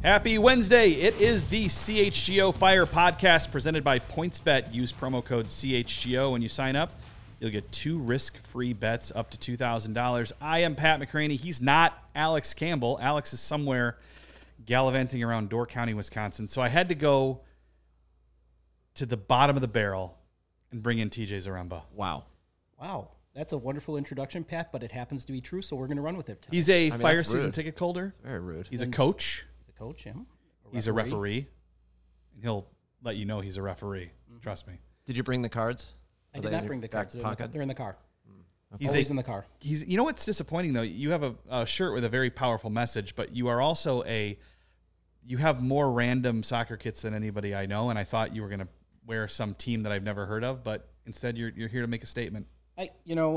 Happy Wednesday. It is the CHGO Fire podcast presented by PointsBet. Use promo code CHGO when you sign up. You'll get 2 risk-free bets up to $2,000. I am Pat McCraney. He's not Alex Campbell. Alex is somewhere gallivanting around Door County, Wisconsin. So I had to go to the bottom of the barrel and bring in TJ Zaremba. Wow. That's a wonderful introduction, Pat, but it happens to be true, so we're going to run with it. He's a fire season ticket holder. That's very rude. He's a coach. Coach, him. He's a referee. And he'll let you know he's a referee. Trust me. Did you bring the cards? I did not bring the cards. They're in the car. He's always in the car. You know what's disappointing, though? You have a shirt with a very powerful message, but you are also you have more random soccer kits than anybody I know, and I thought you were going to wear some team that I've never heard of, but instead you're here to make a statement. It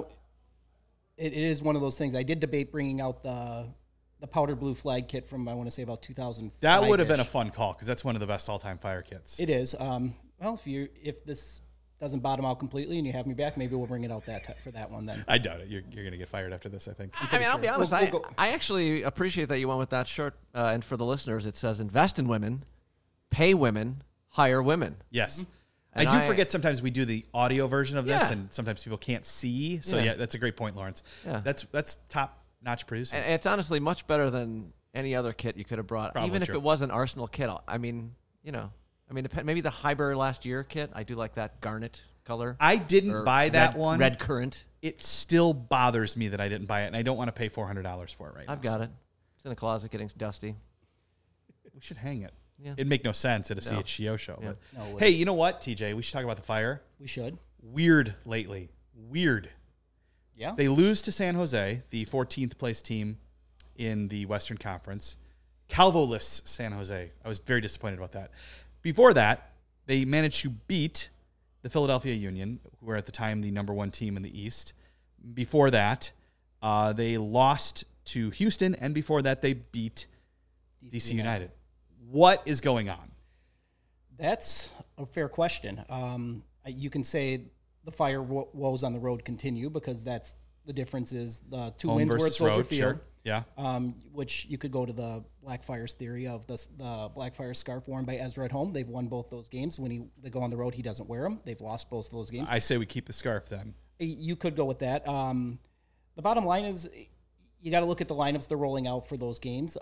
is one of those things. I did debate bringing out the powder blue flag kit from, I want to say, about 2005. That would have been a fun call because that's one of the best all-time fire kits. It is. Well, if this doesn't bottom out completely and you have me back, maybe we'll bring it out for that one then. I doubt it. You're going to get fired after this, I think. I'll be honest. I actually appreciate that you went with that shirt. And for the listeners, it says invest in women, pay women, hire women. Yes. Mm-hmm. And I do forget sometimes we do the audio version of this, Yeah. and sometimes people can't see. So, yeah, that's a great point, Lawrence. Yeah. That's top-notch producing. And it's honestly much better than any other kit you could have brought, Probably even if true. it was an Arsenal kit. Maybe the Hyber last year kit. I do like that garnet color. I didn't buy that one. Red currant. It still bothers me that I didn't buy it, and I don't want to pay $400 for it right now. I've got it. It's in the closet getting dusty. We should hang it. Yeah. It'd make no sense at a CHGO show. Yeah. But hey, you know what, TJ? We should talk about the Fire. We should. Weird lately. Weird. Yeah. They lose to San Jose, the 14th place team in the Western Conference. Calvo-less San Jose. I was very disappointed about that. Before that, they managed to beat the Philadelphia Union, who were at the time the number 1 team in the East. Before that, they lost to Houston, and before that, they beat DC United. What is going on? That's a fair question. You can say the Fire woes on the road continue because that's the difference is the 2 Home wins were at versus Soldier road, Field. sure. Yeah. Which you could go to the Blackfire's theory of the Blackfire scarf worn by Ezra at home. They've won both those games. When they go on the road, he doesn't wear them. They've lost both of those games. I say we keep the scarf then. You could go with that. The bottom line is you got to look at the lineups they're rolling out for those games.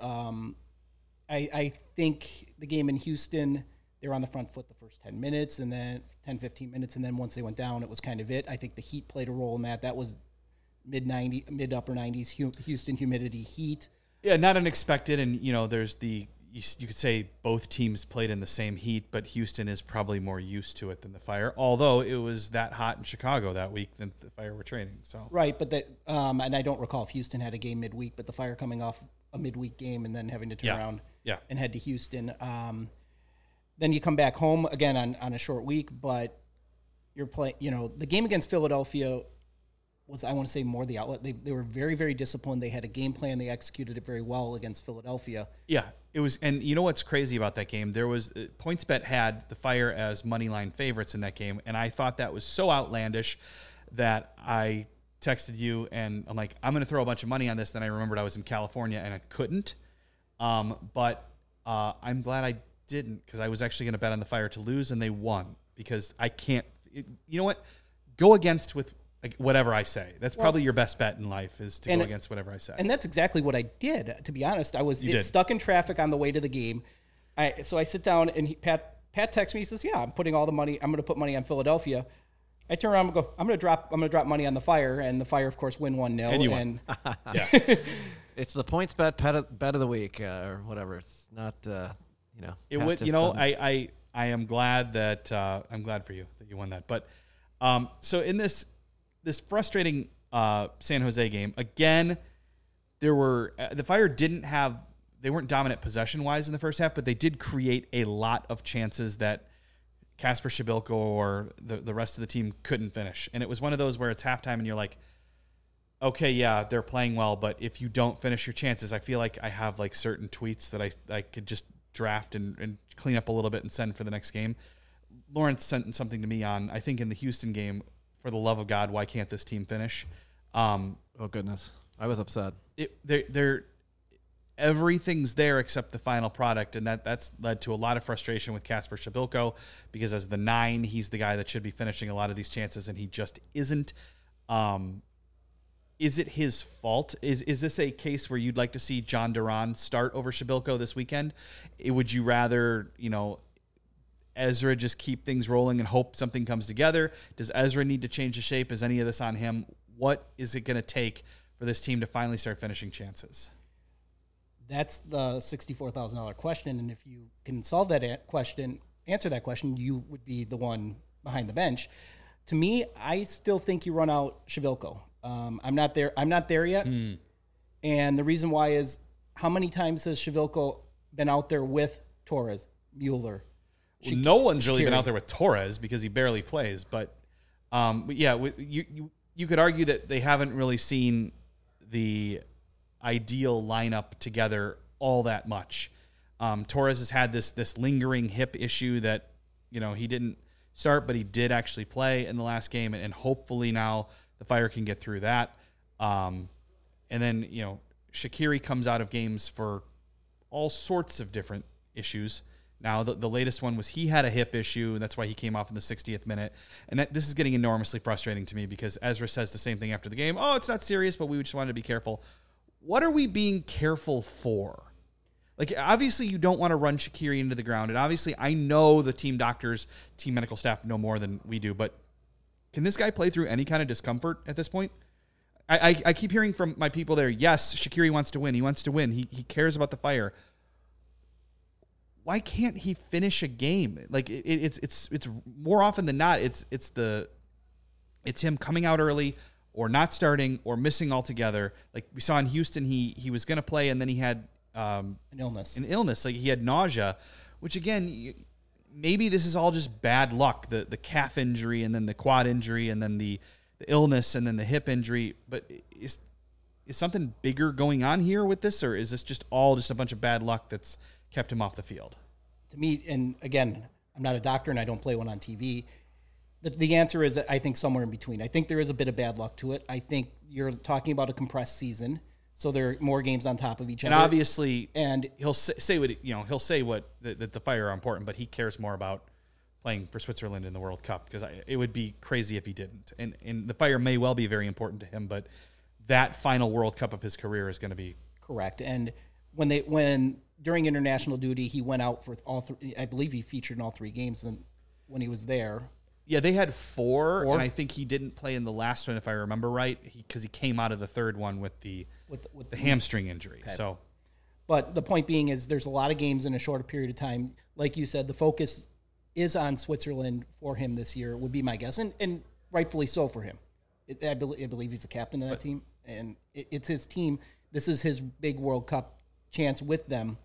I think the game in Houston, they were on the front foot the first 10 minutes and then 10, 15 minutes. And then once they went down, it was kind of it. I think the heat played a role in that. That was mid-upper 90s Houston humidity heat. Yeah, not unexpected. And, there's you could say both teams played in the same heat, but Houston is probably more used to it than the Fire, although it was that hot in Chicago that week that the Fire were training. So right, but and I don't recall if Houston had a game midweek, but the Fire coming off a midweek game and then having to turn around and head to Houston. Then you come back home again on a short week, but you're playing, the game against Philadelphia was, I want to say, more the outlet. They were very, very disciplined. They had a game plan. They executed it very well against Philadelphia. Yeah, it was. And you know what's crazy about that game? There was PointsBet had the Fire as moneyline favorites in that game, and I thought that was so outlandish that I texted you, and I'm like, I'm going to throw a bunch of money on this. Then I remembered I was in California, and I couldn't. But I'm glad I didn't because I was actually going to bet on the Fire to lose, and they won because I can't. You know what? Go against with whatever I say. That's probably your best bet in life is to go against whatever I say. And that's exactly what I did. To be honest, I was stuck in traffic on the way to the game. So I sit down and Pat texts me. He says, "Yeah, I'm putting all the money. I'm going to put money on Philadelphia." I turn around and go, "I'm going to drop money on the Fire," and the Fire, of course, win 1-0. And you won. Yeah. It's the PointsBet bet of the week or whatever. It's not, It would, I am glad that I'm glad for you that you won that. But so in this frustrating San Jose game, again, the Fire they weren't dominant possession-wise in the first half, but they did create a lot of chances that Kasper Shabilko or the rest of the team couldn't finish. And it was one of those where it's halftime and you're like, okay, yeah, they're playing well, but if you don't finish your chances, I feel like I have like certain tweets that I could just draft and clean up a little bit and send for the next game. Lawrence sent something to me on, I think in the Houston game, for the love of God, why can't this team finish? Oh, goodness. I was upset. everything's there except the final product, and that's led to a lot of frustration with Kasper Shabilko, because as the 9, he's the guy that should be finishing a lot of these chances, and he just isn't. Is it his fault? Is this a case where you'd like to see John Duran start over Shabilko this weekend? Would you rather, Ezra just keep things rolling and hope something comes together? Does Ezra need to change the shape? Is any of this on him? What is it going to take for this team to finally start finishing chances? That's the $64,000 question, and if you can solve that question, answer that question, you would be the one behind the bench. To me, I still think you run out Shabilko. I'm not there yet. And the reason why is, how many times has Shabilko been out there with Torres, Mueller? Well, no one's really been out there with Torres because he barely plays. But yeah, you could argue that they haven't really seen the ideal lineup together all that much. Torres has had this lingering hip issue that, he didn't start, but he did actually play in the last game, and hopefully now the Fire can get through that. And then, Shaqiri comes out of games for all sorts of different issues. Now, the latest one was he had a hip issue, and that's why he came off in the 60th minute. And this is getting enormously frustrating to me, because Ezra says the same thing after the game. Oh, it's not serious, but we just wanted to be careful. What are we being careful for? Like, obviously, you don't want to run Shaqiri into the ground. And obviously, I know the team doctors, team medical staff know more than we do, but can this guy play through any kind of discomfort at this point? I keep hearing from my people there, yes, Shaqiri wants to win. He wants to win. He cares about the Fire. Why can't he finish a game? Like, it's more often than not, it's him coming out early or not starting or missing altogether. Like we saw in Houston, he was going to play, and then he had an illness. Like he had nausea, which again, maybe this is all just bad luck. The calf injury, and then the quad injury, and then the illness, and then the hip injury. But is something bigger going on here with this, or is this just a bunch of bad luck that's kept him off the field? To me, and again, I'm not a doctor and I don't play one on TV. The answer is, I think, somewhere in between. I think there is a bit of bad luck to it. I think you're talking about a compressed season, so there are more games on top of each other. And obviously, and he'll say what that the Fire are important, but he cares more about playing for Switzerland in the World Cup, because it would be crazy if he didn't. And the Fire may well be very important to him, but that final World Cup of his career is going to be correct. And when during international duty, he went out for all three. I believe he featured in all 3 games when he was there. Yeah, they had 4, and I think he didn't play in the last one, if I remember right, because he came out of the third one with the hamstring injury. Okay. So, but the point being is, there's a lot of games in a shorter period of time. Like you said, the focus is on Switzerland for him this year, would be my guess, and rightfully so for him. I believe he's the captain of that team, and it's his team. This is his big World Cup chance with them.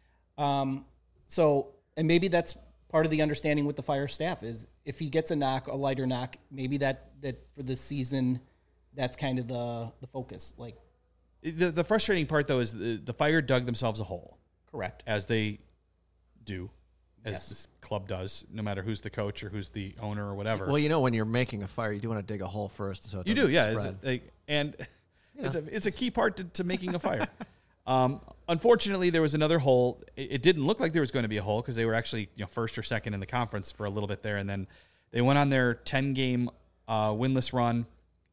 So, and maybe that's part of the understanding with the Fire staff, is if he gets a lighter knock, maybe that for this season, that's kind of the focus. Like, the frustrating part though is the Fire dug themselves a hole. Correct. As they do, as this club does, no matter who's the coach or who's the owner or whatever. Well, when you're making a fire, you do want to dig a hole first. So you do, yeah. It's a key part to making a fire. Unfortunately, there was another hole. It didn't look like there was going to be a hole, because they were actually first or second in the conference for a little bit there, and then they went on their 10-game winless run.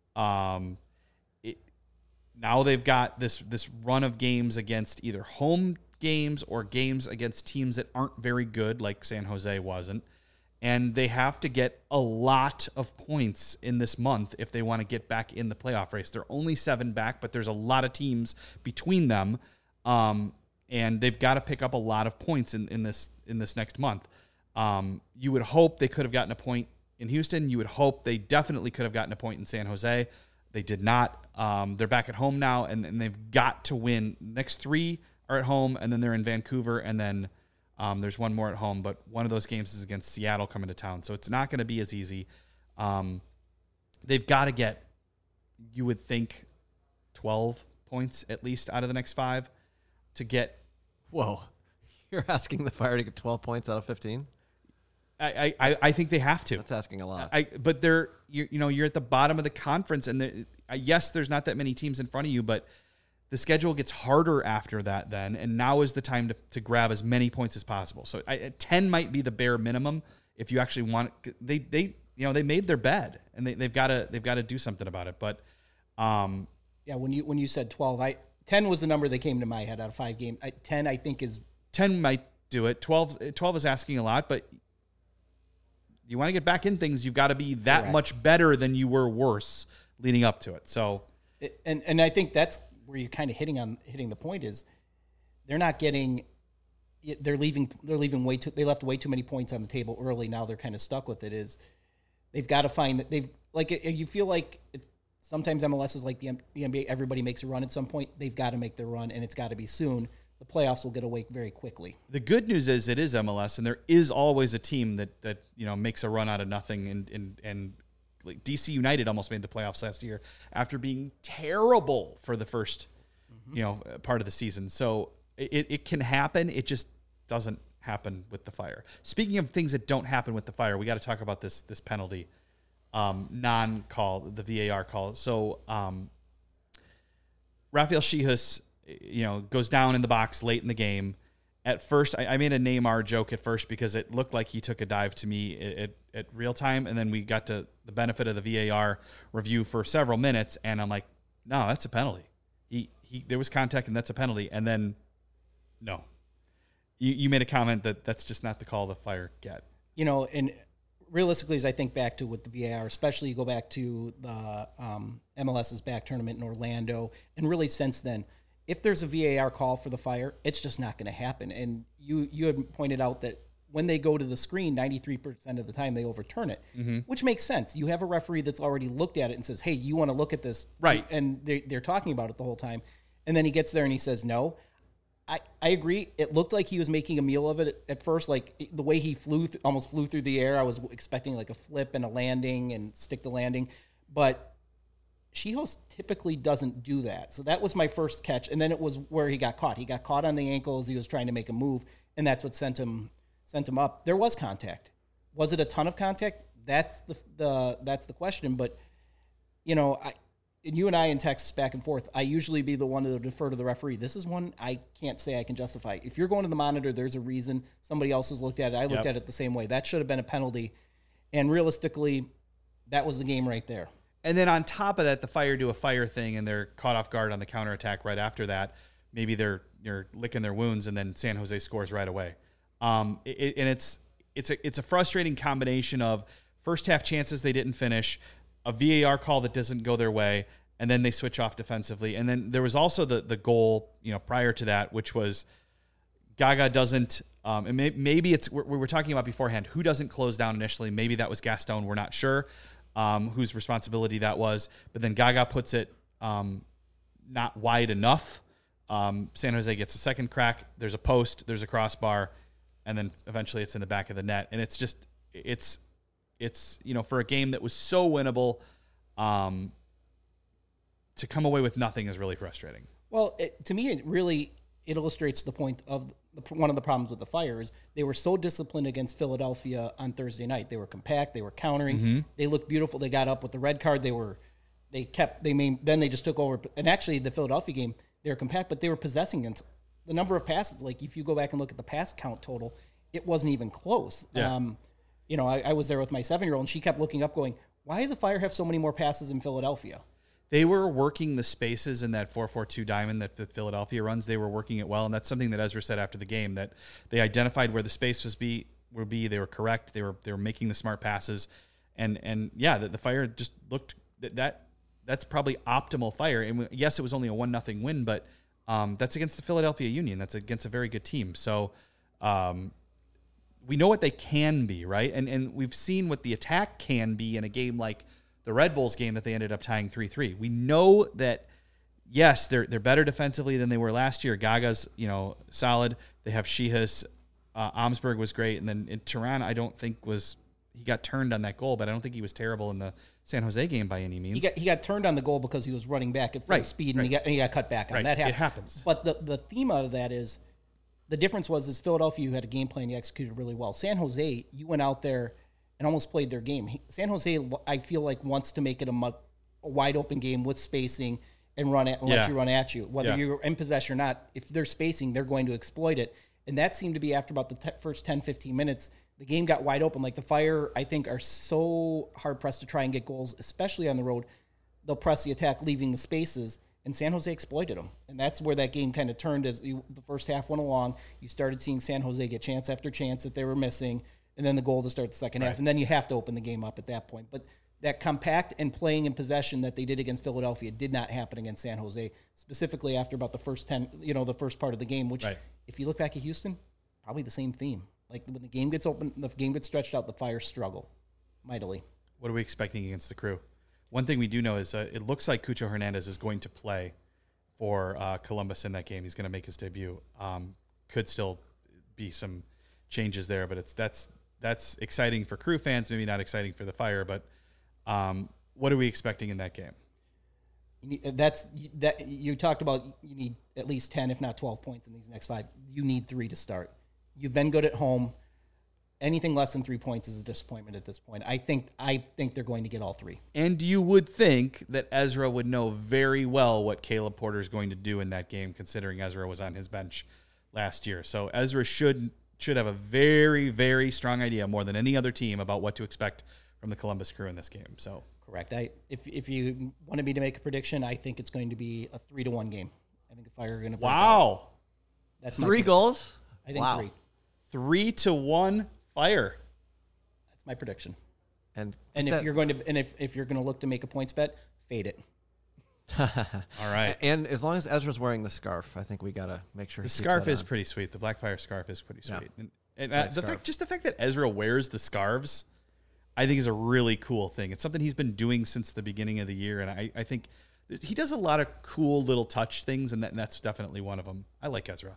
Now they've got this run of games against either home games or games against teams that aren't very good, like San Jose wasn't, and they have to get a lot of points in this month if they want to get back in the playoff race. They're only 7 back, but there's a lot of teams between them. And they've got to pick up a lot of points in this next month. You would hope they could have gotten a point in Houston. You would hope they definitely could have gotten a point in San Jose. They did not. They're back at home now, and they've got to win. Next 3 are at home, and then they're in Vancouver, and then there's one more at home. But one of those games is against Seattle coming to town, so it's not going to be as easy. They've got to get, you would think, 12 points at least out of the next 5 to get. Whoa, you're asking the Fire to get 12 points out of 15? I think they have to. That's asking a lot. But you're at the bottom of the conference, and yes, there's not that many teams in front of you, but the schedule gets harder after that then, and now is the time to grab as many points as possible. So 10 might be the bare minimum if you actually want. They made their bed, and they've got to do something about it. But when you said 12, 10 was the number that came to my head out of 5 games. 10 I think is 10 might do it. 12 is asking a lot, but you want to get back in things, you've got to be that Correct. much better than you were worse leading up to it. So, and I think that's where you're kind of hitting the point is they're not getting. They're leaving way too. They left way too many points on the table early. Now they're kind of stuck with it. Is they've got to find that you feel like sometimes MLS is like the NBA. Everybody makes a run at some point. They've got to make their run, and it's got to be soon. The playoffs will get away very quickly. The good news is it is MLS, and there is always a team that makes a run out of nothing. And like DC United almost made the playoffs last year after being terrible for the first part of the season. So it can happen. It just doesn't happen with the Fire. Speaking of things that don't happen with the Fire, we got to talk about this penalty non-call, the VAR call. So Rafael Chihus, goes down in the box late in the game. At first, I made a Neymar joke at first because it looked like he took a dive to me at real time, and then we got to the benefit of the VAR review for several minutes, and I'm like, no, that's a penalty. There was contact, and that's a penalty. And then, no. You made a comment that's just not the call the Fire get. And realistically, as I think back to with the VAR, especially you go back to the MLS's back tournament in Orlando, and really since then, if there's a VAR call for the Fire, it's just not going to happen. And you had pointed out that when they go to the screen, 93% of the time they overturn it, which makes sense. You have a referee that's already looked at it and says, hey, you want to look at this? Right. And they're talking about it the whole time. And then he gets there and he says no. I agree. It looked like he was making a meal of it at first. Like the way he almost flew through the air, I was expecting like a flip and a landing and stick the landing. But Chihus typically doesn't do that. So that was my first catch. And then it was where he got caught. He got caught on the ankle as he was trying to make a move, and that's what sent him up. There was contact. Was it a ton of contact? That's the question. But, you and I in texts back and forth, I usually be the one to defer to the referee. This is one I can't say I can justify. If you're going to the monitor, there's a reason. Somebody else has looked at it. I looked at it the same way. That should have been a penalty. And realistically, that was the game right there. And then on top of that, the Fire do a Fire thing, and they're caught off guard on the counterattack right after that. Maybe they're licking their wounds, and then San Jose scores right away. It's a frustrating combination of first half chances they didn't finish, a VAR call that doesn't go their way, and then they switch off defensively. And then there was also the goal, prior to that, which was Gaga doesn't. And maybe it's we were talking about beforehand who doesn't close down initially. Maybe that was Gaston. We're not sure. Whose responsibility that was, but then Gaga puts it not wide enough. San Jose gets a second crack. There's a post, there's a crossbar, and then eventually it's in the back of the net. And it's just it's for a game that was so winnable, to come away with nothing is really frustrating. Well, to me, it illustrates the point of one of the problems with the Fire is they were so disciplined against Philadelphia on Thursday night. They were compact. They were countering. They looked beautiful. They got up with the red card. Then they just took over. And actually, the Philadelphia game, they were compact, but they were possessing it. The number of passes, like if you go back and look at the pass count total, it wasn't even close. Yeah. I was there with my 7-year-old, and she kept looking up going, why do the Fire have so many more passes in Philadelphia? They were working the spaces in that 4-4-2 diamond that Philadelphia runs. They were working it well, and that's something that Ezra said after the game, that they identified where the space would be. They were correct. They were making the smart passes, and the Fire just looked that's probably optimal Fire. And yes, it was only a 1-0 win, but that's against the Philadelphia Union. That's against a very good team. So we know what they can be, right? And we've seen what the attack can be in a game like the Red Bulls game that they ended up tying 3-3. We know that, yes, they're better defensively than they were last year. Gaga's, solid. They have Chihus. Omsberg was great. And then in Turan, I don't think he got turned on that goal, but I don't think he was terrible in the San Jose game by any means. He got turned on the goal because he was running back at full speed, and he got cut back on. Right. That happened. It happens. But the theme out of that is the difference was Philadelphia, you had a game plan, you executed really well. San Jose, you went out there and almost played their game. San Jose, I feel like, wants to make it a wide open game with spacing and let you run at you. Whether you're in possession or not, if they're spacing, they're going to exploit it. And that seemed to be after about the first 10, 15 minutes, the game got wide open. Like the Fire, I think, are so hard-pressed to try and get goals, especially on the road. They'll press the attack, leaving the spaces, and San Jose exploited them. And that's where that game kind of turned as the first half went along. You started seeing San Jose get chance after chance that they were missing, and then the goal to start the second half. And then you have to open the game up at that point. But that compact and playing in possession that they did against Philadelphia did not happen against San Jose, specifically after about the first 10, the first part of the game, which if you look back at Houston, probably the same theme. Like when the game gets open, the game gets stretched out, the Fire struggle mightily. What are we expecting against the Crew? One thing we do know is it looks like Cucho Hernandez is going to play for Columbus in that game. He's going to make his debut. Could still be some changes there, but that's exciting for Crew fans, maybe not exciting for the Fire, but what are we expecting in that game? You talked about you need at least 10, if not 12 points in these next 5. You need 3 to start. You've been good at home. Anything less than 3 points is a disappointment at this point. I think they're going to get all 3. And you would think that Ezra would know very well what Caleb Porter is going to do in that game, considering Ezra was on his bench last year. So Ezra should have a very, very strong idea, more than any other team, about what to expect from the Columbus Crew in this game. So correct. If you wanted me to make a prediction, I think it's going to be a 3-1 game. I think the Fire are going to break out. That's 3 goals? I think 3. 3-1 Fire. That's my prediction. And if you're going to look to make a points bet, fade it. All right. And as long as Ezra's wearing the scarf, I think we got to make sure the scarf is pretty sweet. The Black Fire scarf is pretty sweet. Yeah. And the fact that Ezra wears the scarves, I think is a really cool thing. It's something he's been doing since the beginning of the year, and I think he does a lot of cool little touch things, and that's definitely one of them. I like Ezra.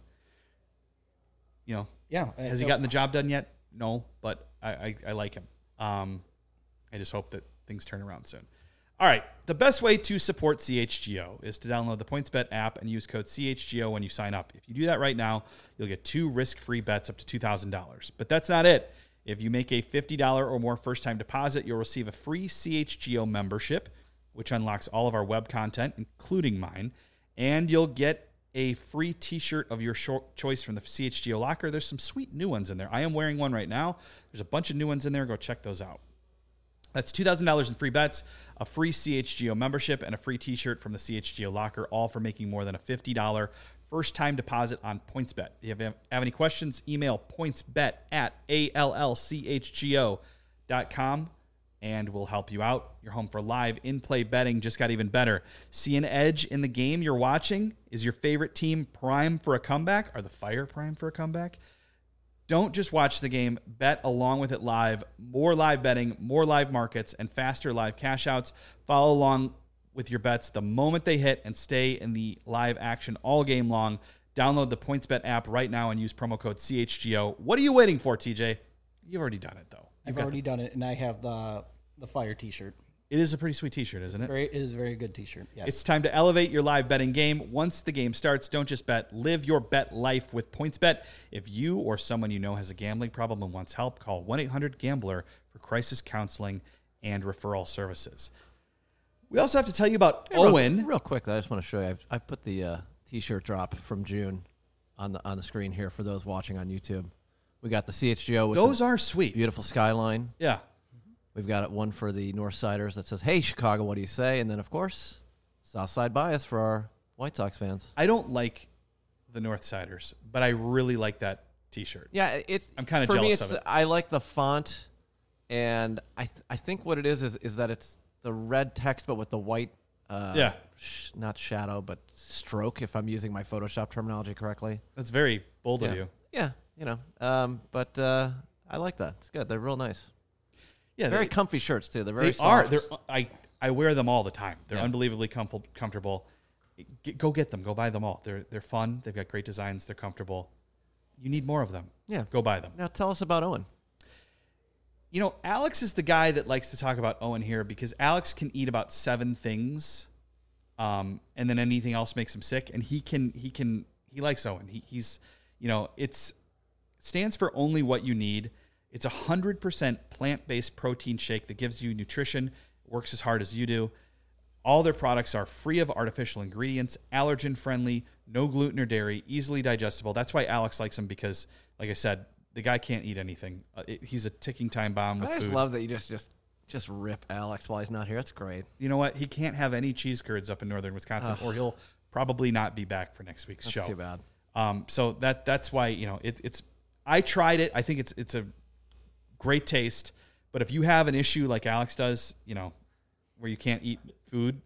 Has he gotten the job done yet? No, but I like him. I just hope that things turn around soon. All right, the best way to support CHGO is to download the PointsBet app and use code CHGO when you sign up. If you do that right now, you'll get 2 risk-free bets up to $2,000. But that's not it. If you make a $50 or more first-time deposit, you'll receive a free CHGO membership, which unlocks all of our web content, including mine, and you'll get a free t-shirt of your choice from the CHGO locker. There's some sweet new ones in there. I am wearing one right now. There's a bunch of new ones in there. Go check those out. That's $2,000 in free bets, a free CHGO membership, and a free t-shirt from the CHGO locker, all for making more than a $50 first-time deposit on PointsBet. If you have any questions, email pointsbet@allchgo.com, and we'll help you out. Your home for live in-play betting just got even better. See an edge in the game you're watching? Is your favorite team prime for a comeback? Are the Fire prime for a comeback? Don't just watch the game. Bet along with it live. More live betting, more live markets, and faster live cash outs. Follow along with your bets the moment they hit and stay in the live action all game long. Download the PointsBet app right now and use promo code CHGO. What are you waiting for, TJ? You've already done it, though. I've already done it, and I have the Fire t-shirt. It is a pretty sweet t-shirt, isn't it? It is a very good t-shirt, yes. It's time to elevate your live betting game. Once the game starts, don't just bet. Live your bet life with PointsBet. If you or someone you know has a gambling problem and wants help, call 1-800-GAMBLER for crisis counseling and referral services. We also have to tell you about Owen. Real quick, I just want to show you. I put the t-shirt drop from June on the screen here for those watching on YouTube. We got the CHGO with those are sweet. Beautiful skyline. Yeah. We've got one for the Northsiders that says, "Hey, Chicago, what do you say?" And then, of course, Southside bias for our White Sox fans. I don't like the Northsiders, but I really like that T-shirt. Yeah, I'm kind of jealous of it. I like the font, and I think what it is that it's the red text but with the white, not shadow but stroke. If I'm using my Photoshop terminology correctly, that's very bold of you. Yeah, but I like that. It's good. They're real nice. Yeah, very comfy shirts too. They're very soft. I wear them all the time. They're unbelievably comfortable. Go get them. Go buy them all. They're fun. They've got great designs. They're comfortable. You need more of them. Yeah, go buy them. Now tell us about Owen. Alex is the guy that likes to talk about Owen here because Alex can eat about 7 things, and then anything else makes him sick. And he likes Owen. He's it stands for only what you need. It's 100% plant-based protein shake that gives you nutrition, works as hard as you do. All their products are free of artificial ingredients, allergen-friendly, no gluten or dairy, easily digestible. That's why Alex likes them because, like I said, the guy can't eat anything. He's a ticking time bomb with food. I just love that you just rip Alex while he's not here. That's great. You know what? He can't have any cheese curds up in northern Wisconsin, or he'll probably not be back for next week's show. That's too bad. So that's why it's. I tried it. I think it's a great taste. But if you have an issue like Alex does, where you can't eat food,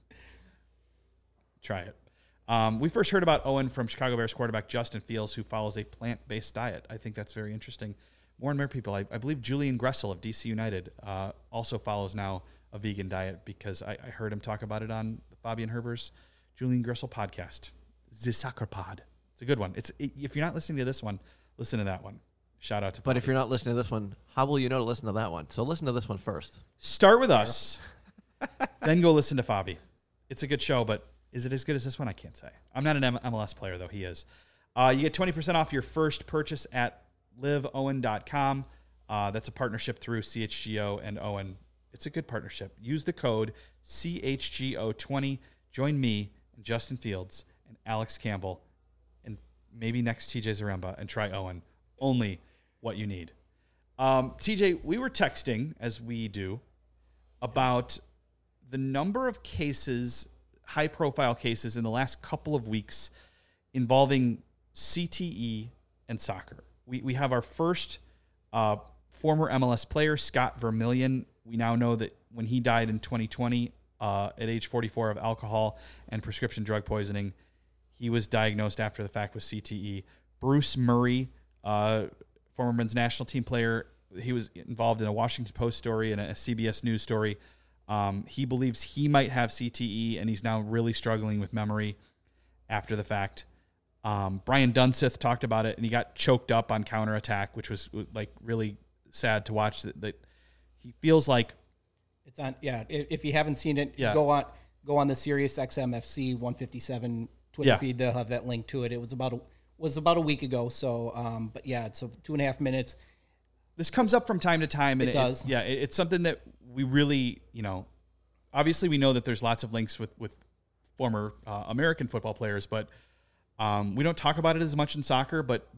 try it. We first heard about Owen from Chicago Bears quarterback Justin Fields, who follows a plant-based diet. I think that's very interesting. More and more people. I believe Julian Gressel of DC United also follows now a vegan diet because I heard him talk about it on the Bobby and Herber's Julian Gressel podcast, The Soccer Pod. It's a good one. If you're not listening to this one, listen to that one. Shout out to Bobby. But if you're not listening to this one, how will you know to listen to that one? So listen to this one first. Start with us, then go listen to Fabi. It's a good show, but is it as good as this one? I can't say. I'm not an MLS player, though. He is. You get 20% off your first purchase at liveowen.com. That's a partnership through CHGO and Owen. It's a good partnership. Use the code CHGO20. Join me and Justin Fields and Alex Campbell and maybe next TJ Zaremba and try Owen. Only what you need. TJ, we were texting, as we do, about the number of cases, high-profile cases in the last couple of weeks involving CTE and soccer. We have our first former MLS player, Scott Vermillion. We now know that when he died in 2020 at age 44 of alcohol and prescription drug poisoning, he was diagnosed after the fact with CTE. Bruce Murray, former men's national team player, he was involved in a Washington Post story and a CBS News story. He believes he might have CTE, and he's now really struggling with memory after the fact. Brian Dunseth talked about it, and he got choked up on counterattack, which was like really sad to watch. That he feels like it's on. Yeah, if you haven't seen it, go on the Sirius XM FC 157 Twitter feed. They'll have that link to it. It was about a week ago. So, but yeah, it's 2.5 minutes. This comes up from time to time. And it does. It's something that we really, obviously we know that there's lots of links with former American football players, but we don't talk about it as much in soccer. But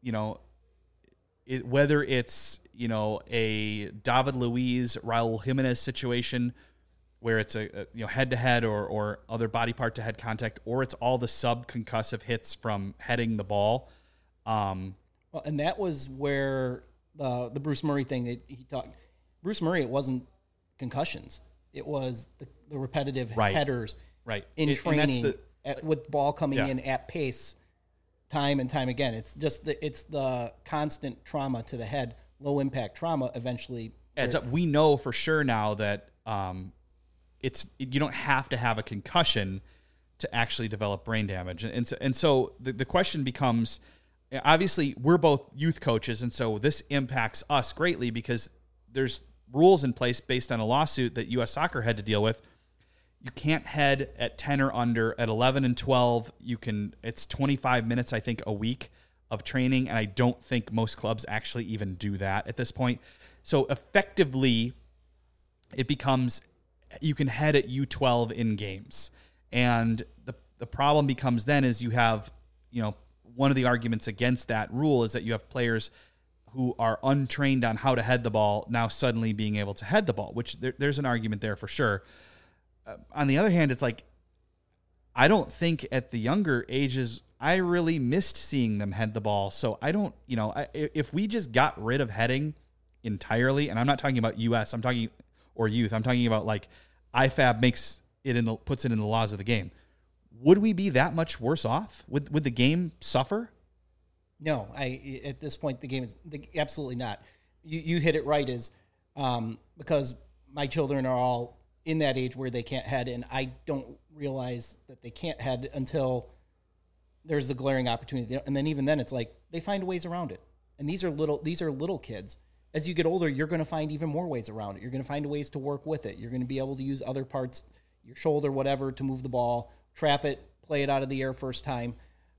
whether it's a David Luiz, Raul Jimenez situation where it's a head to head or other body part to head contact, or it's all the subconcussive hits from heading the ball. Well, and that was where the Bruce Murray thing that he talked. Bruce Murray, it wasn't concussions; it was the repetitive headers in training with ball coming in at pace, time and time again. It's just it's the constant trauma to the head, low impact trauma. Eventually adds up. We know for sure now that you don't have to have a concussion to actually develop brain damage, and so the question becomes. Obviously, we're both youth coaches, and so this impacts us greatly because there's rules in place based on a lawsuit that U.S. Soccer had to deal with. You can't head at 10 or under. At 11 and 12, it's 25 minutes, I think, a week of training, and I don't think most clubs actually even do that at this point. So effectively, it becomes you can head at U12 in games. And the problem becomes then is you have, one of the arguments against that rule is that you have players who are untrained on how to head the ball now suddenly being able to head the ball, which there's an argument there for sure. On the other hand, it's like, I don't think at the younger ages, I really missed seeing them head the ball. So I don't, if we just got rid of heading entirely, and I'm not talking about US, or youth, I'm talking about like IFAB puts it in the laws of the game. Would we be that much worse off? Would the game suffer? No, at this point the game is absolutely not. You hit it right. Is because my children are all in that age where they can't head, and I don't realize that they can't head until there's the glaring opportunity, and then even then it's like they find ways around it. And these are little kids. As you get older, you're going to find even more ways around it. You're going to find ways to work with it. You're going to be able to use other parts, your shoulder, whatever, to move the ball. Trap it, play it out of the air first time.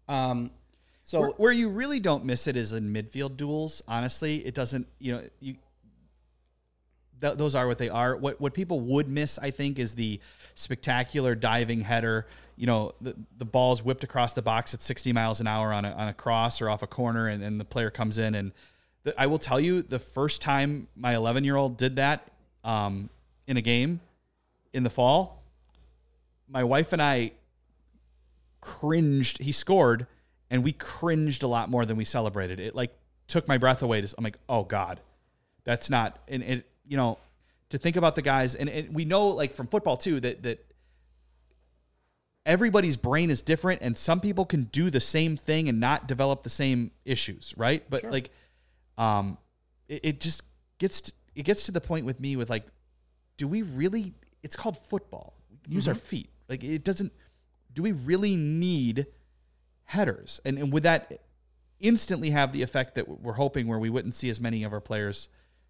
So where you really don't miss it is in midfield duels. Honestly, it doesn't. those are what they are. What people would miss, I think, is the spectacular diving header. The ball's whipped across the box at 60 miles an hour on a cross or off a corner, and the player comes in. And I will tell you, the first time my 11-year-old did that in a game in the fall, my wife and I cringed. He scored, and we cringed a lot more than we celebrated. It like took my breath away. I'm like, oh God, that's not. And it, to think about the guys, and we know like from football too that everybody's brain is different, and some people can do the same thing and not develop the same issues, right? But sure. Like, it just gets to the point with me with like, do we really? It's called football. We can use our feet. Like it doesn't. Do we really need headers? And would that instantly have the effect that we're hoping, where we wouldn't see as many of our players,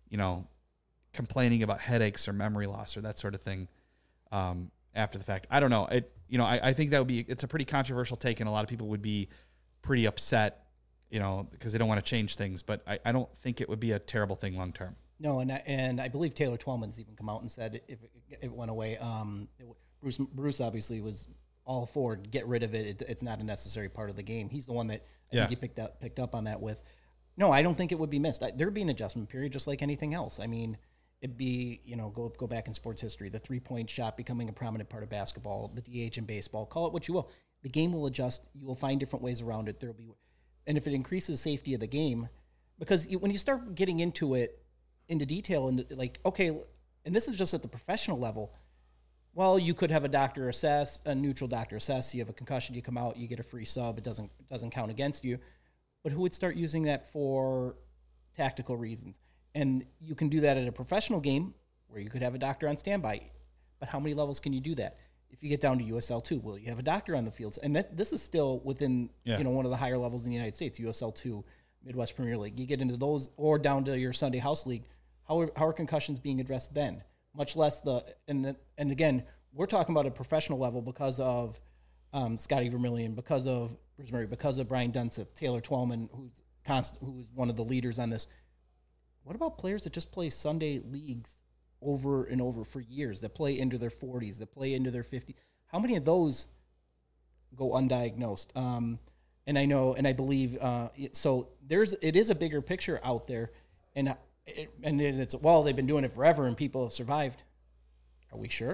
complaining about headaches or memory loss or that sort of thing after the fact? I don't know. I think that it's a pretty controversial take, and a lot of people would be pretty upset, because they don't want to change things. But I don't think it would be a terrible thing long term. No, and I believe Taylor Twellman's even come out and said if it went away, Bruce obviously was all for get rid of it. It's not a necessary part of the game. He's the one that I think he picked up on that with. No, I don't think it would be missed. There'd be an adjustment period just like anything else. I mean, it'd be, go back in sports history, the 3-point shot becoming a prominent part of basketball, the DH in baseball, call it what you will. The game will adjust. You will find different ways around it. And if it increases safety of the game, because when you start getting into detail and like, okay, and this is just at the professional level, well, you could have a neutral doctor assess. You have a concussion, you come out, you get a free sub. It doesn't count against you. But who would start using that for tactical reasons? And you can do that at a professional game where you could have a doctor on standby. But how many levels can you do that? If you get down to USL 2, will you have a doctor on the fields? And this is still within one of the higher levels in the United States, USL 2, Midwest Premier League. You get into those or down to your Sunday House League. How are concussions being addressed then? Much less and again, we're talking about a professional level because of Scotty Vermillion, because of Bruce Murray, because of Brian Dunseth, Taylor Twellman, who's one of the leaders on this. What about players that just play Sunday leagues over and over for years, that play into their 40s, that play into their 50s? How many of those go undiagnosed? And I know, and I believe, so it is a bigger picture out there, and it's, well, they've been doing it forever and people have survived. Are we sure?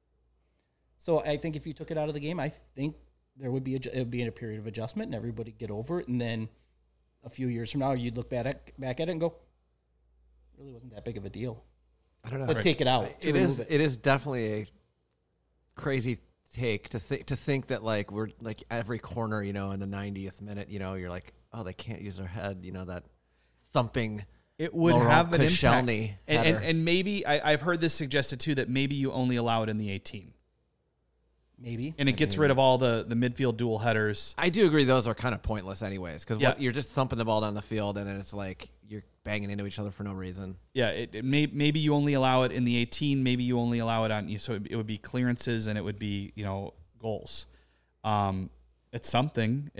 So I think if you took it out of the game, I think it would be in a period of adjustment and everybody get over it. And then a few years from now, you'd look back at it and go, it really wasn't that big of a deal. I don't know. But take it out. It is definitely a crazy take to think that like we're like every corner, in the 90th minute, you're like, oh, they can't use their head, that thumping. It would have an impact. And maybe, I've heard this suggested too, that maybe you only allow it in the 18. Maybe. And it gets rid of all the midfield dual headers. I do agree those are kind of pointless anyways, because you're just thumping the ball down the field, and then it's like you're banging into each other for no reason. Yeah, maybe you only allow it in the 18. Maybe you only allow it on, so it would be clearances and it would be, goals. It's something.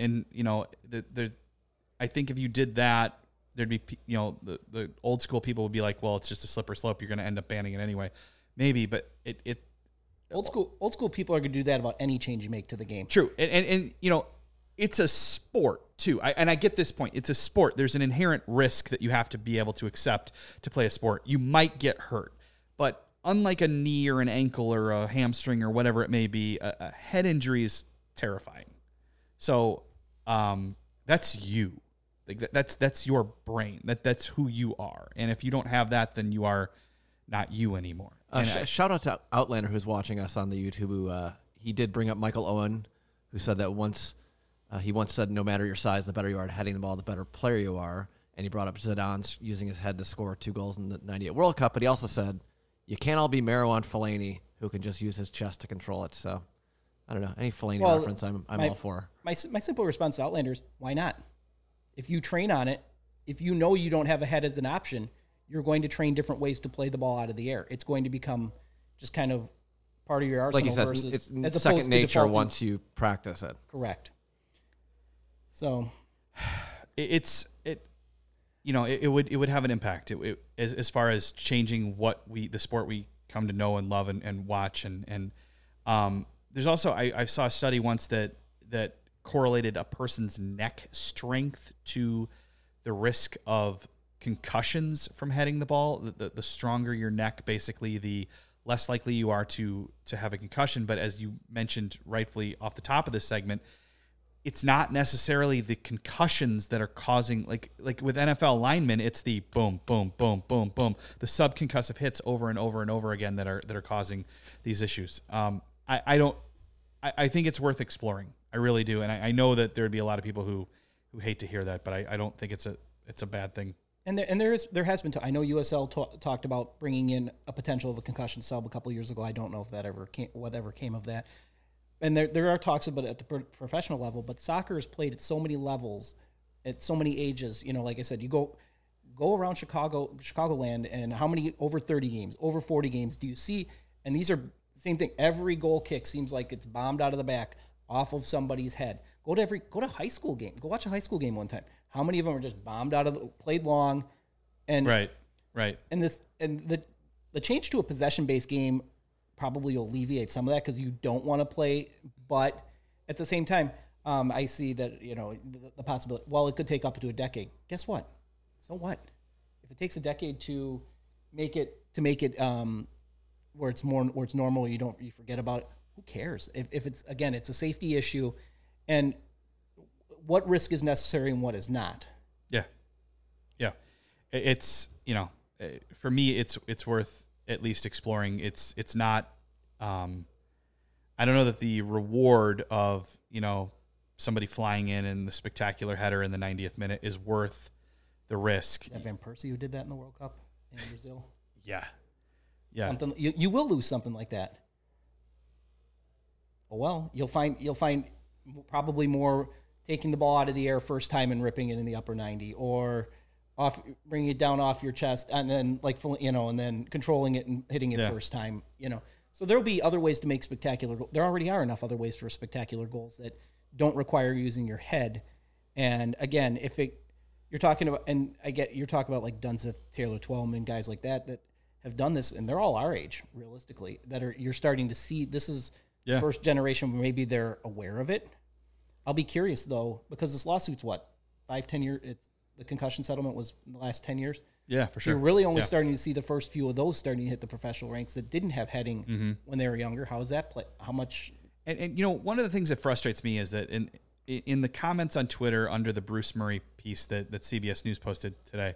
I think if you did that, there'd be, the old school people would be like, well, it's just a slippery slope. You're going to end up banning it anyway. Maybe, but it old school people are going to do that about any change you make to the game. True. And it's a sport too. I get this point. It's a sport. There's an inherent risk that you have to be able to accept to play a sport. You might get hurt, but unlike a knee or an ankle or a hamstring or whatever it may be, a head injury is terrifying. So, that's you. Like that's your brain. That's who you are. And if you don't have that, then you are not you anymore. Shout out to Outlander, who's watching us on the YouTube. Who he did bring up Michael Owen, who said that he once said, no matter your size, the better you are at heading the ball, the better player you are. And he brought up Zidane using his head to score 2 goals in the 98 World Cup. But he also said, you can't all be Marouane Fellaini, who can just use his chest to control it. So I don't know. Any Fellaini reference, I'm all for. My simple response to Outlanders, why not? If you train on it, if you know you don't have a head as an option, you're going to train different ways to play the ball out of the air. It's going to become just kind of part of your arsenal. Like you said, it's second nature once you practice it. Correct. So, it would have an impact as far as changing the sport we come to know and love and watch. And there's also, I saw a study once that correlated a person's neck strength to the risk of concussions from heading the ball. The stronger your neck, basically, the less likely you are to have a concussion. But as you mentioned rightfully off the top of this segment, it's not necessarily the concussions that are causing, like with NFL linemen, it's the boom, boom, boom, boom, boom, the subconcussive hits over and over and over again that are causing these issues. I think it's worth exploring. I really do, and I know that there would be a lot of people who hate to hear that, but I don't think it's a bad thing. And there has been. I know USL talked about bringing in a potential of a concussion sub a couple of years ago. I don't know if that whatever came of that. And there are talks about it at the professional level, but soccer is played at so many levels, at so many ages. Like I said, you go around Chicagoland, and how many over 30 games, over 40 games do you see? And these are the same thing. Every goal kick seems like it's bombed out of the back off of somebody's head. Go to a high school game. Go watch a high school game one time. How many of them are just bombed played long, and right. And the change to a possession-based game probably will alleviate some of that because you don't want to play. But at the same time, I see that the possibility. Well, it could take up to a decade. Guess what? So what? If it takes a decade to make it where it's normal, you forget about it. Who cares? If it's a safety issue, and what risk is necessary and what is not. Yeah. It's for me, it's worth at least exploring. It's not. I don't know that the reward of somebody flying in the spectacular header in the 90th minute is worth the risk. Is that Van Persie who did that in the World Cup in Brazil? Yeah. Something you will lose something like that. Oh well, you'll find probably more taking the ball out of the air first time and ripping it in the upper 90, or bringing it down off your chest and then and then controlling it and hitting it first time. So there'll be other ways to make spectacular goals. There already are enough other ways for spectacular goals that don't require using your head. And again, you're talking about like Dunseth, Taylor Twellman, guys like that have done this, and they're all our age, realistically, you're starting to see. This is first generation, maybe they're aware of it. I'll be curious, though, because this lawsuit's 5-10 years? The concussion settlement was in the last 10 years? Yeah, for sure. You're really only starting to see the first few of those starting to hit the professional ranks that didn't have heading when they were younger. How is that play? How much? And one of the things that frustrates me is that in the comments on Twitter under the Bruce Murray piece that CBS News posted today,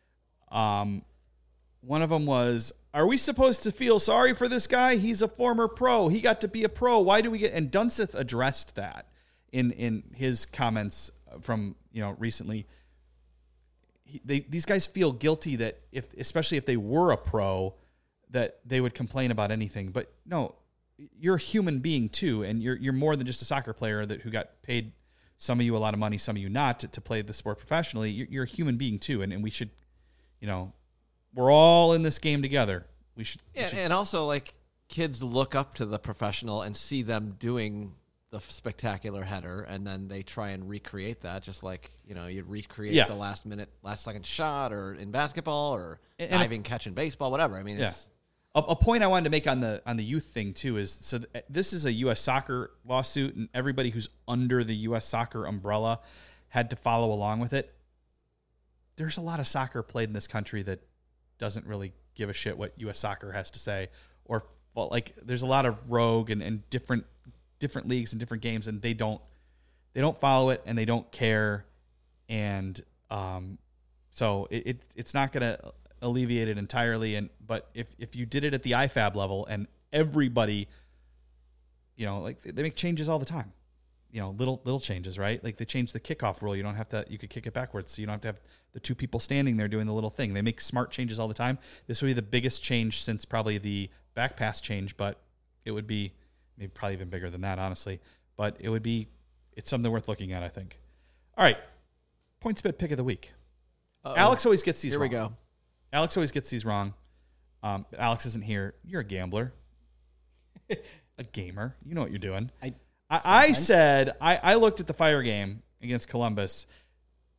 one of them was, are we supposed to feel sorry for this guy? He's a former pro. He got to be a pro. Why do we get... And Dunseth addressed that in his comments from, recently. These guys feel guilty that especially if they were a pro, that they would complain about anything. But no, you're a human being too, and you're more than just a soccer player who got paid, some of you a lot of money, some of you not, to play the sport professionally. You're a human being too, and we should, we're all in this game together. We should. And also, like, kids look up to the professional and see them doing the spectacular header, and then they try and recreate that, just like you recreate the last second shot, or in basketball, or diving catch in baseball, whatever. I mean, it's a point I wanted to make on the youth thing too is this is a U.S. soccer lawsuit, and everybody who's under the U.S. soccer umbrella had to follow along with it. There's a lot of soccer played in this country that doesn't really give a shit what U.S. soccer has to say, or there's a lot of rogue and different leagues and different games, and they don't follow it, and they don't care, and so it's not going to alleviate it entirely. But if you did it at the IFAB level, and everybody, they make changes all the time, little changes, right? Like they changed the kickoff rule. You could kick it backwards, so you don't have to have the two people standing there doing the little thing. They make smart changes all the time. This would be the biggest change since probably the back pass change, but it would be maybe probably even bigger than that, honestly. But it's something worth looking at, I think. All right. PointsBet pick of the week. Uh-oh. Alex always gets these wrong. Here we go. Alex always gets these wrong. But Alex isn't here. You're a gambler. A gamer. You know what you're doing. I said, I looked at the Fire game against Columbus.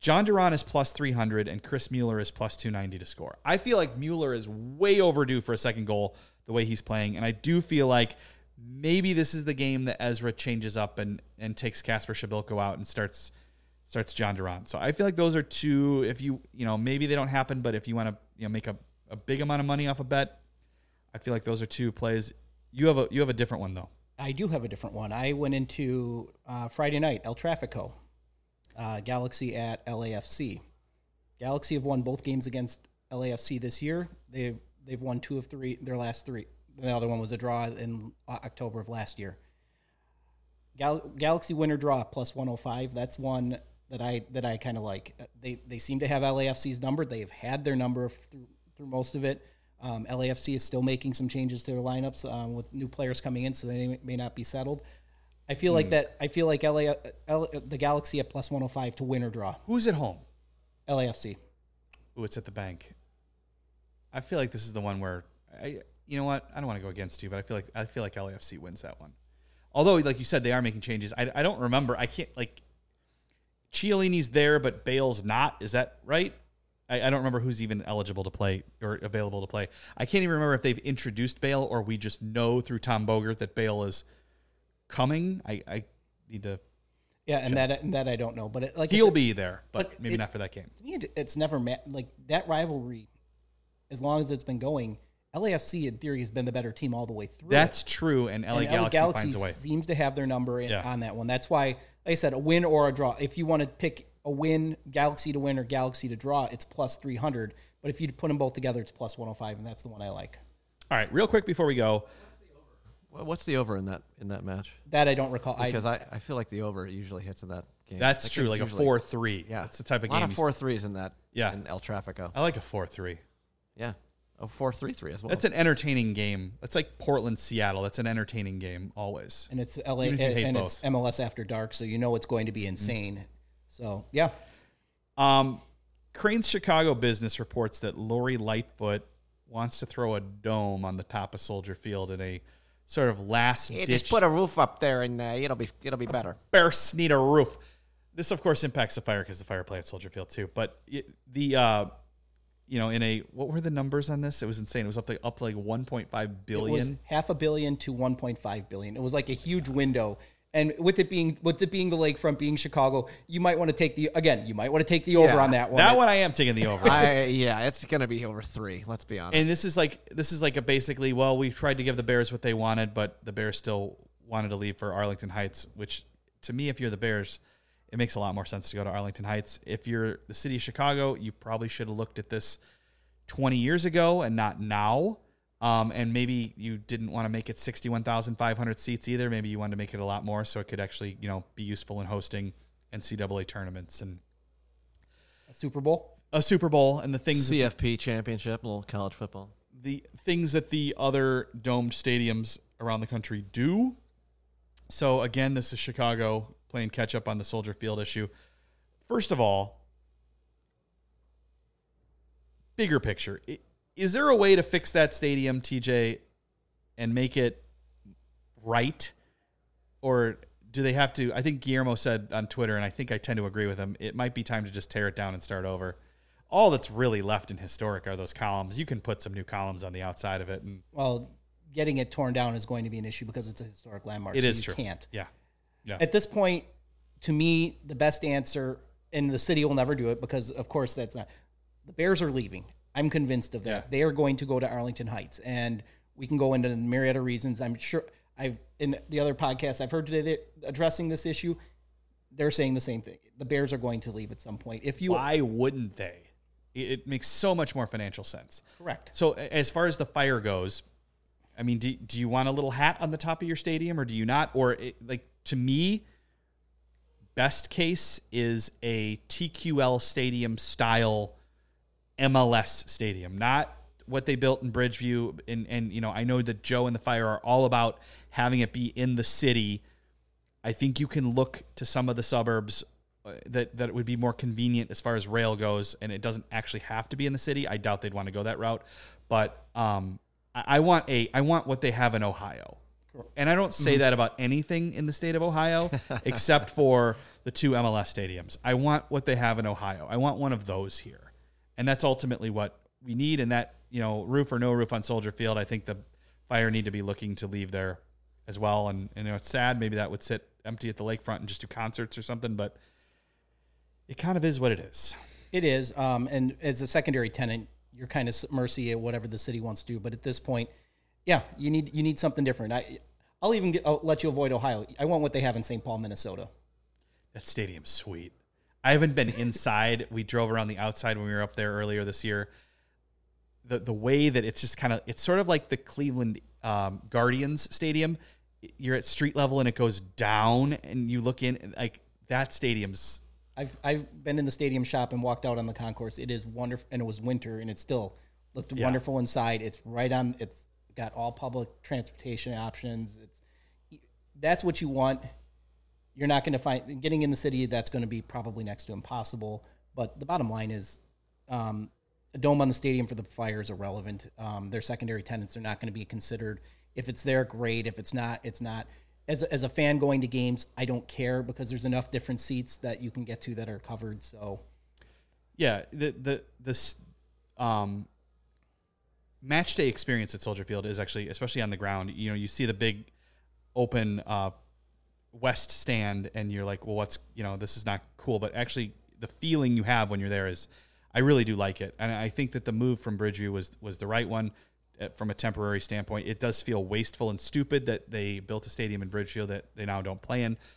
John Duran is plus 300 and Chris Mueller is plus 290 to score. I feel like Mueller is way overdue for a second goal the way he's playing, and I do feel like maybe this is the game that Ezra changes up and takes Kasper Shabilko out and starts John Duran. So I feel like those are two, if maybe they don't happen, but if you want to make a big amount of money off a bet, I feel like those are two plays. You have a different one, though. I do have a different one. I went into Friday night, El Trafico, Galaxy at LAFC. Galaxy have won both games against LAFC this year. They've won 2 of 3, their last 3. The other one was a draw in October of last year. Galaxy winner draw plus 105. That's one that I kind of like. They seem to have LAFC's number. They've had their number through most of it. LAFC is still making some changes to their lineups with new players coming in, so they may not be settled. I feel like that. I feel like the Galaxy at plus 105 to win or draw. Who's at home? LAFC. Ooh, it's at the bank. I feel like this is the one where you know what? I don't want to go against you, but I feel like LAFC wins that one. Although, like you said, they are making changes. I don't remember. I can't Chiellini's there, but Bale's not. Is that right? I don't remember who's even eligible to play or available to play. I can't even remember if they've introduced Bale or we just know through Tom Bogert that Bale is coming. I need to. Yeah, and that I don't know, but he'll be there, but maybe not for that game. To me, it's never that rivalry. As long as it's been going, LAFC in theory has been the better team all the way through. That's true, and LA Galaxy finds a way. Seems to have their number on that one. That's why, like I said, a win or a draw. If you want to pick a win, Galaxy to win or Galaxy to draw, it's plus 300. But if you put them both together, it's plus 105, and that's the one I like. All right, real quick before we go. What's the over in that match? That I don't recall. Because I feel like the over usually hits in that game. That's true, like a 4-3. Yeah. That's the type of game. A lot of 4-3s in that in El Trafico. I like a 4-3. Yeah. A 4-3-3 as well. That's an entertaining game. That's like Portland-Seattle. That's an entertaining game always. And it's LA and it's MLS After Dark, so you know it's going to be insane. So, yeah. Crane's Chicago Business reports that Lori Lightfoot wants to throw a dome on the top of Soldier Field in a sort of last-ditch. Just put a roof up there, and it'll be better. Bears need a roof. This, of course, impacts the Fire because the Fire play at Soldier Field too. But what were the numbers on this? It was insane. It was up to like 1.5 billion. It was $500 million to 1.5 billion. It was like a huge window. And with it being the lakefront, being Chicago, you might want to take the over on that one. That one I am taking the over. It's going to be over 3. Let's be honest. And this is like a basically, well, we tried to give the Bears what they wanted, but the Bears still wanted to leave for Arlington Heights, which to me, if you're the Bears, it makes a lot more sense to go to Arlington Heights. If you're the city of Chicago, you probably should have looked at this 20 years ago and not now. And maybe you didn't want to make it 61,500 seats either. Maybe you wanted to make it a lot more so it could actually, be useful in hosting NCAA tournaments and a Super Bowl and the things CFP championship, a little college football. The things that the other domed stadiums around the country do. So again, this is Chicago playing catch up on the Soldier Field issue. First of all, bigger picture. Is there a way to fix that stadium, TJ, and make it right? Or do they have to? I think Guillermo said on Twitter, and I think I tend to agree with him, it might be time to just tear it down and start over. All that's really left in historic are those columns. You can put some new columns on the outside of it. Well, getting it torn down is going to be an issue because it's a historic landmark. It is true. You can't. Yeah. At this point, to me, the best answer, and the city will never do it because, of course, that's not. The Bears are leaving. I'm convinced of that. Yeah. They are going to go to Arlington Heights, and we can go into a myriad of reasons. I'm sure in the other podcasts I've heard today addressing this issue, they're saying the same thing. The Bears are going to leave at some point. Why wouldn't they? It makes so much more financial sense. Correct. So as far as the Fire goes, I mean, do you want a little hat on the top of your stadium or do you not? Or to me, best case is a TQL stadium style MLS stadium, not what they built in Bridgeview. And I know that Joe and the Fire are all about having it be in the city. I think you can look to some of the suburbs that it would be more convenient as far as rail goes, and it doesn't actually have to be in the city. I doubt they'd want to go that route, but I want what they have in Ohio. And I don't say that about anything in the state of Ohio, except for the 2 MLS stadiums. I want what they have in Ohio. I want one of those here. And that's ultimately what we need. And that, roof or no roof on Soldier Field, I think the Fire need to be looking to leave there as well. And it's sad. Maybe that would sit empty at the lakefront and just do concerts or something, but it kind of is what it is. It is. And as a secondary tenant, you're kind of mercy at whatever the city wants to do. But at this point, yeah, you need something different. I'll let you avoid Ohio. I want what they have in St. Paul, Minnesota. That stadium's sweet. I haven't been inside. We drove around the outside when we were up there earlier this year. The way that it's just it's sort of like the Cleveland Guardians stadium. You're at street level and it goes down and you look in, like that stadium's. I've been in the stadium shop and walked out on the concourse. It is wonderful, and it was winter, and it still looked wonderful inside. It's right on. It's got all public transportation options. That's what you want. You're not going to find getting in the city. That's going to be probably next to impossible. But the bottom line is, a dome on the stadium for the Fire is irrelevant. Their secondary tenants are not going to be considered. If it's there, great. If it's not, it's not. As a fan going to games, I don't care because there's enough different seats that you can get to that are covered. So, yeah, this match day experience at Soldier Field is actually, especially on the ground. You see the big open west stand, and you're like, well, this is not cool. But actually, the feeling you have when you're there is, I really do like it, and I think that the move from Bridgeview was the right one. From a temporary standpoint, it does feel wasteful and stupid that they built a stadium in Bridgeview that they now don't play in.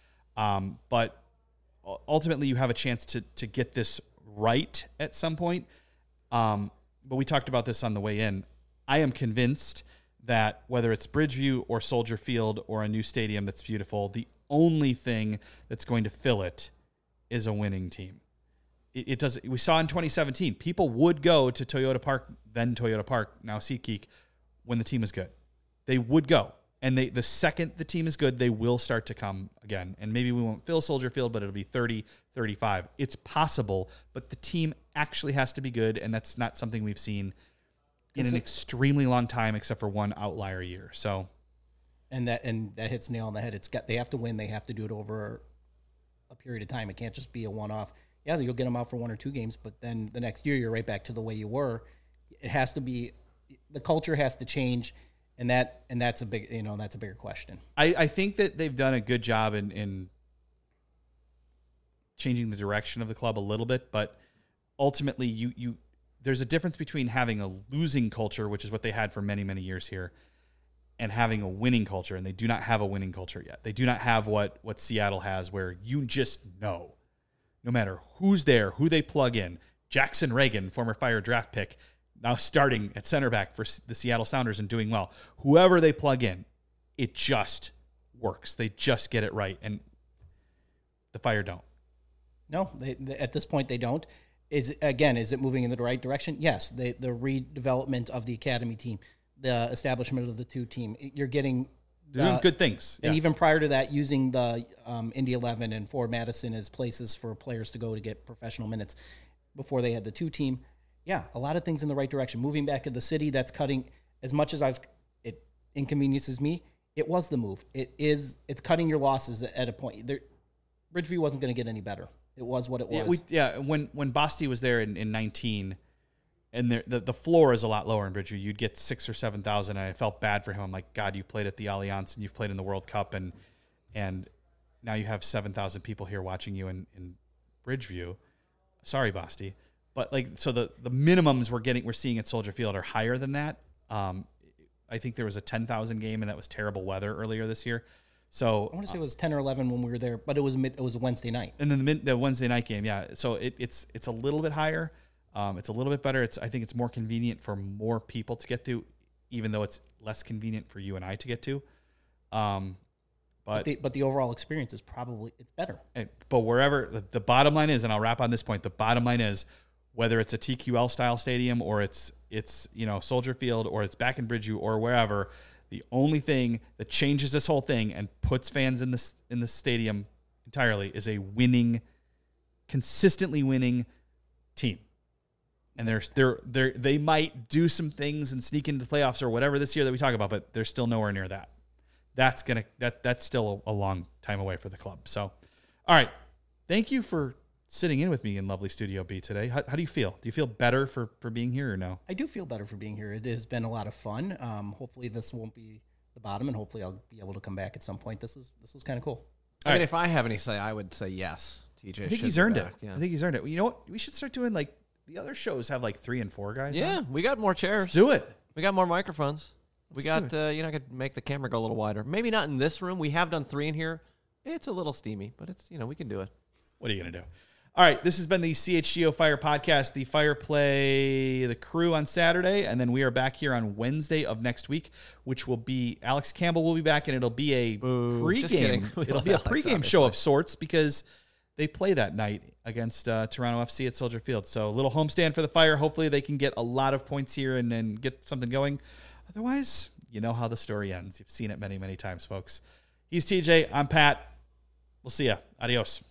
But ultimately, you have a chance to get this right at some point. But we talked about this on the way in. I am convinced that whether it's Bridgeview or Soldier Field or a new stadium that's beautiful, the only thing that's going to fill it is a winning team. It does. We saw in 2017, people would go to Toyota Park, then Toyota Park, now SeatGeek, when the team is good. They would go. And the second the team is good, they will start to come again. And maybe we won't fill Soldier Field, but it'll be 30, 35. It's possible, but the team actually has to be good, and that's not something we've seen in an extremely long time, except for one outlier year. So, and that hits the nail on the head. They have to win. They have to do it over a period of time. It can't just be a one-off. Yeah, you'll get them out for 1 or 2 games, but then the next year you're right back to the way you were. It has to be, the culture has to change, and that's a big, that's a bigger question. I think that they've done a good job in changing the direction of the club a little bit, but ultimately you there's a difference between having a losing culture, which is what they had for many, many years here, and having a winning culture, and they do not have a winning culture yet. They do not have what Seattle has, where you just know. No matter who's there, who they plug in, Jackson Reagan, former Fire draft pick, now starting at center back for the Seattle Sounders and doing well. Whoever they plug in, it just works. They just get it right, and the Fire don't. No, at this point they don't. Is it moving in the right direction? Yes. The redevelopment of the academy team, the establishment of the 2 team, you're getting. They're doing good things. And even prior to that, using the Indy 11 and Ford Madison as places for players to go to get professional minutes before they had the 2 team. Yeah, a lot of things in the right direction. Moving back to the city, that's cutting, as much as it inconveniences me, it was the move. It's cutting your losses at a point. Bridgeview wasn't going to get any better. It was what it was. When Basti was there in 19, and the floor is a lot lower in Bridgeview. You'd get 6,000 or 7,000, and I felt bad for him. I'm like, God, you played at the Allianz and you've played in the World Cup, and now you have 7,000 people here watching you in Bridgeview. Sorry, Basti, but so the minimums we're seeing at Soldier Field are higher than that. I think there was a 10,000 game, and that was terrible weather earlier this year. So I want to say it was 10 or 11 when we were there, but it was a Wednesday night. And then the Wednesday night game, yeah. So it's a little bit higher. It's a little bit better. I think it's more convenient for more people to get to, even though it's less convenient for you and I to get to. But the overall experience is it's better. But wherever the bottom line is, and I'll wrap on this point, the bottom line is whether it's a TQL style stadium or it's Soldier Field or it's back in Bridgeview or wherever, the only thing that changes this whole thing and puts fans in the stadium entirely is a consistently winning team. And they might do some things and sneak into the playoffs or whatever this year that we talk about, but they're still nowhere near that. That's still a long time away for the club. So, all right, thank you for sitting in with me in lovely Studio B today. How do you feel? Do you feel better for being here or no? I do feel better for being here. It has been a lot of fun. Hopefully this won't be the bottom, and hopefully I'll be able to come back at some point. This was kind of cool. I mean, if I have any say, I would say yes. TJ, I think he's earned it. Yeah. I think he's earned it. You know what? We should start doing like the other shows have like 3 and 4 guys. Yeah, we got more chairs. Let's do it. We got more microphones. We got I could make the camera go a little wider. Maybe not in this room. We have done 3 in here. It's a little steamy, but it's we can do it. What are you gonna do? All right, this has been the CHGO Fire Podcast. The Fire play the Crew on Saturday, and then we are back here on Wednesday of next week, which will be Alex Campbell will be back, and it'll be a pregame. It'll be a pregame show of sorts because they play that night against Toronto FC at Soldier Field. So a little homestand for the Fire. Hopefully they can get a lot of points here and then get something going. Otherwise, you know how the story ends. You've seen it many, many times, folks. He's TJ. I'm Pat. We'll see ya. Adios.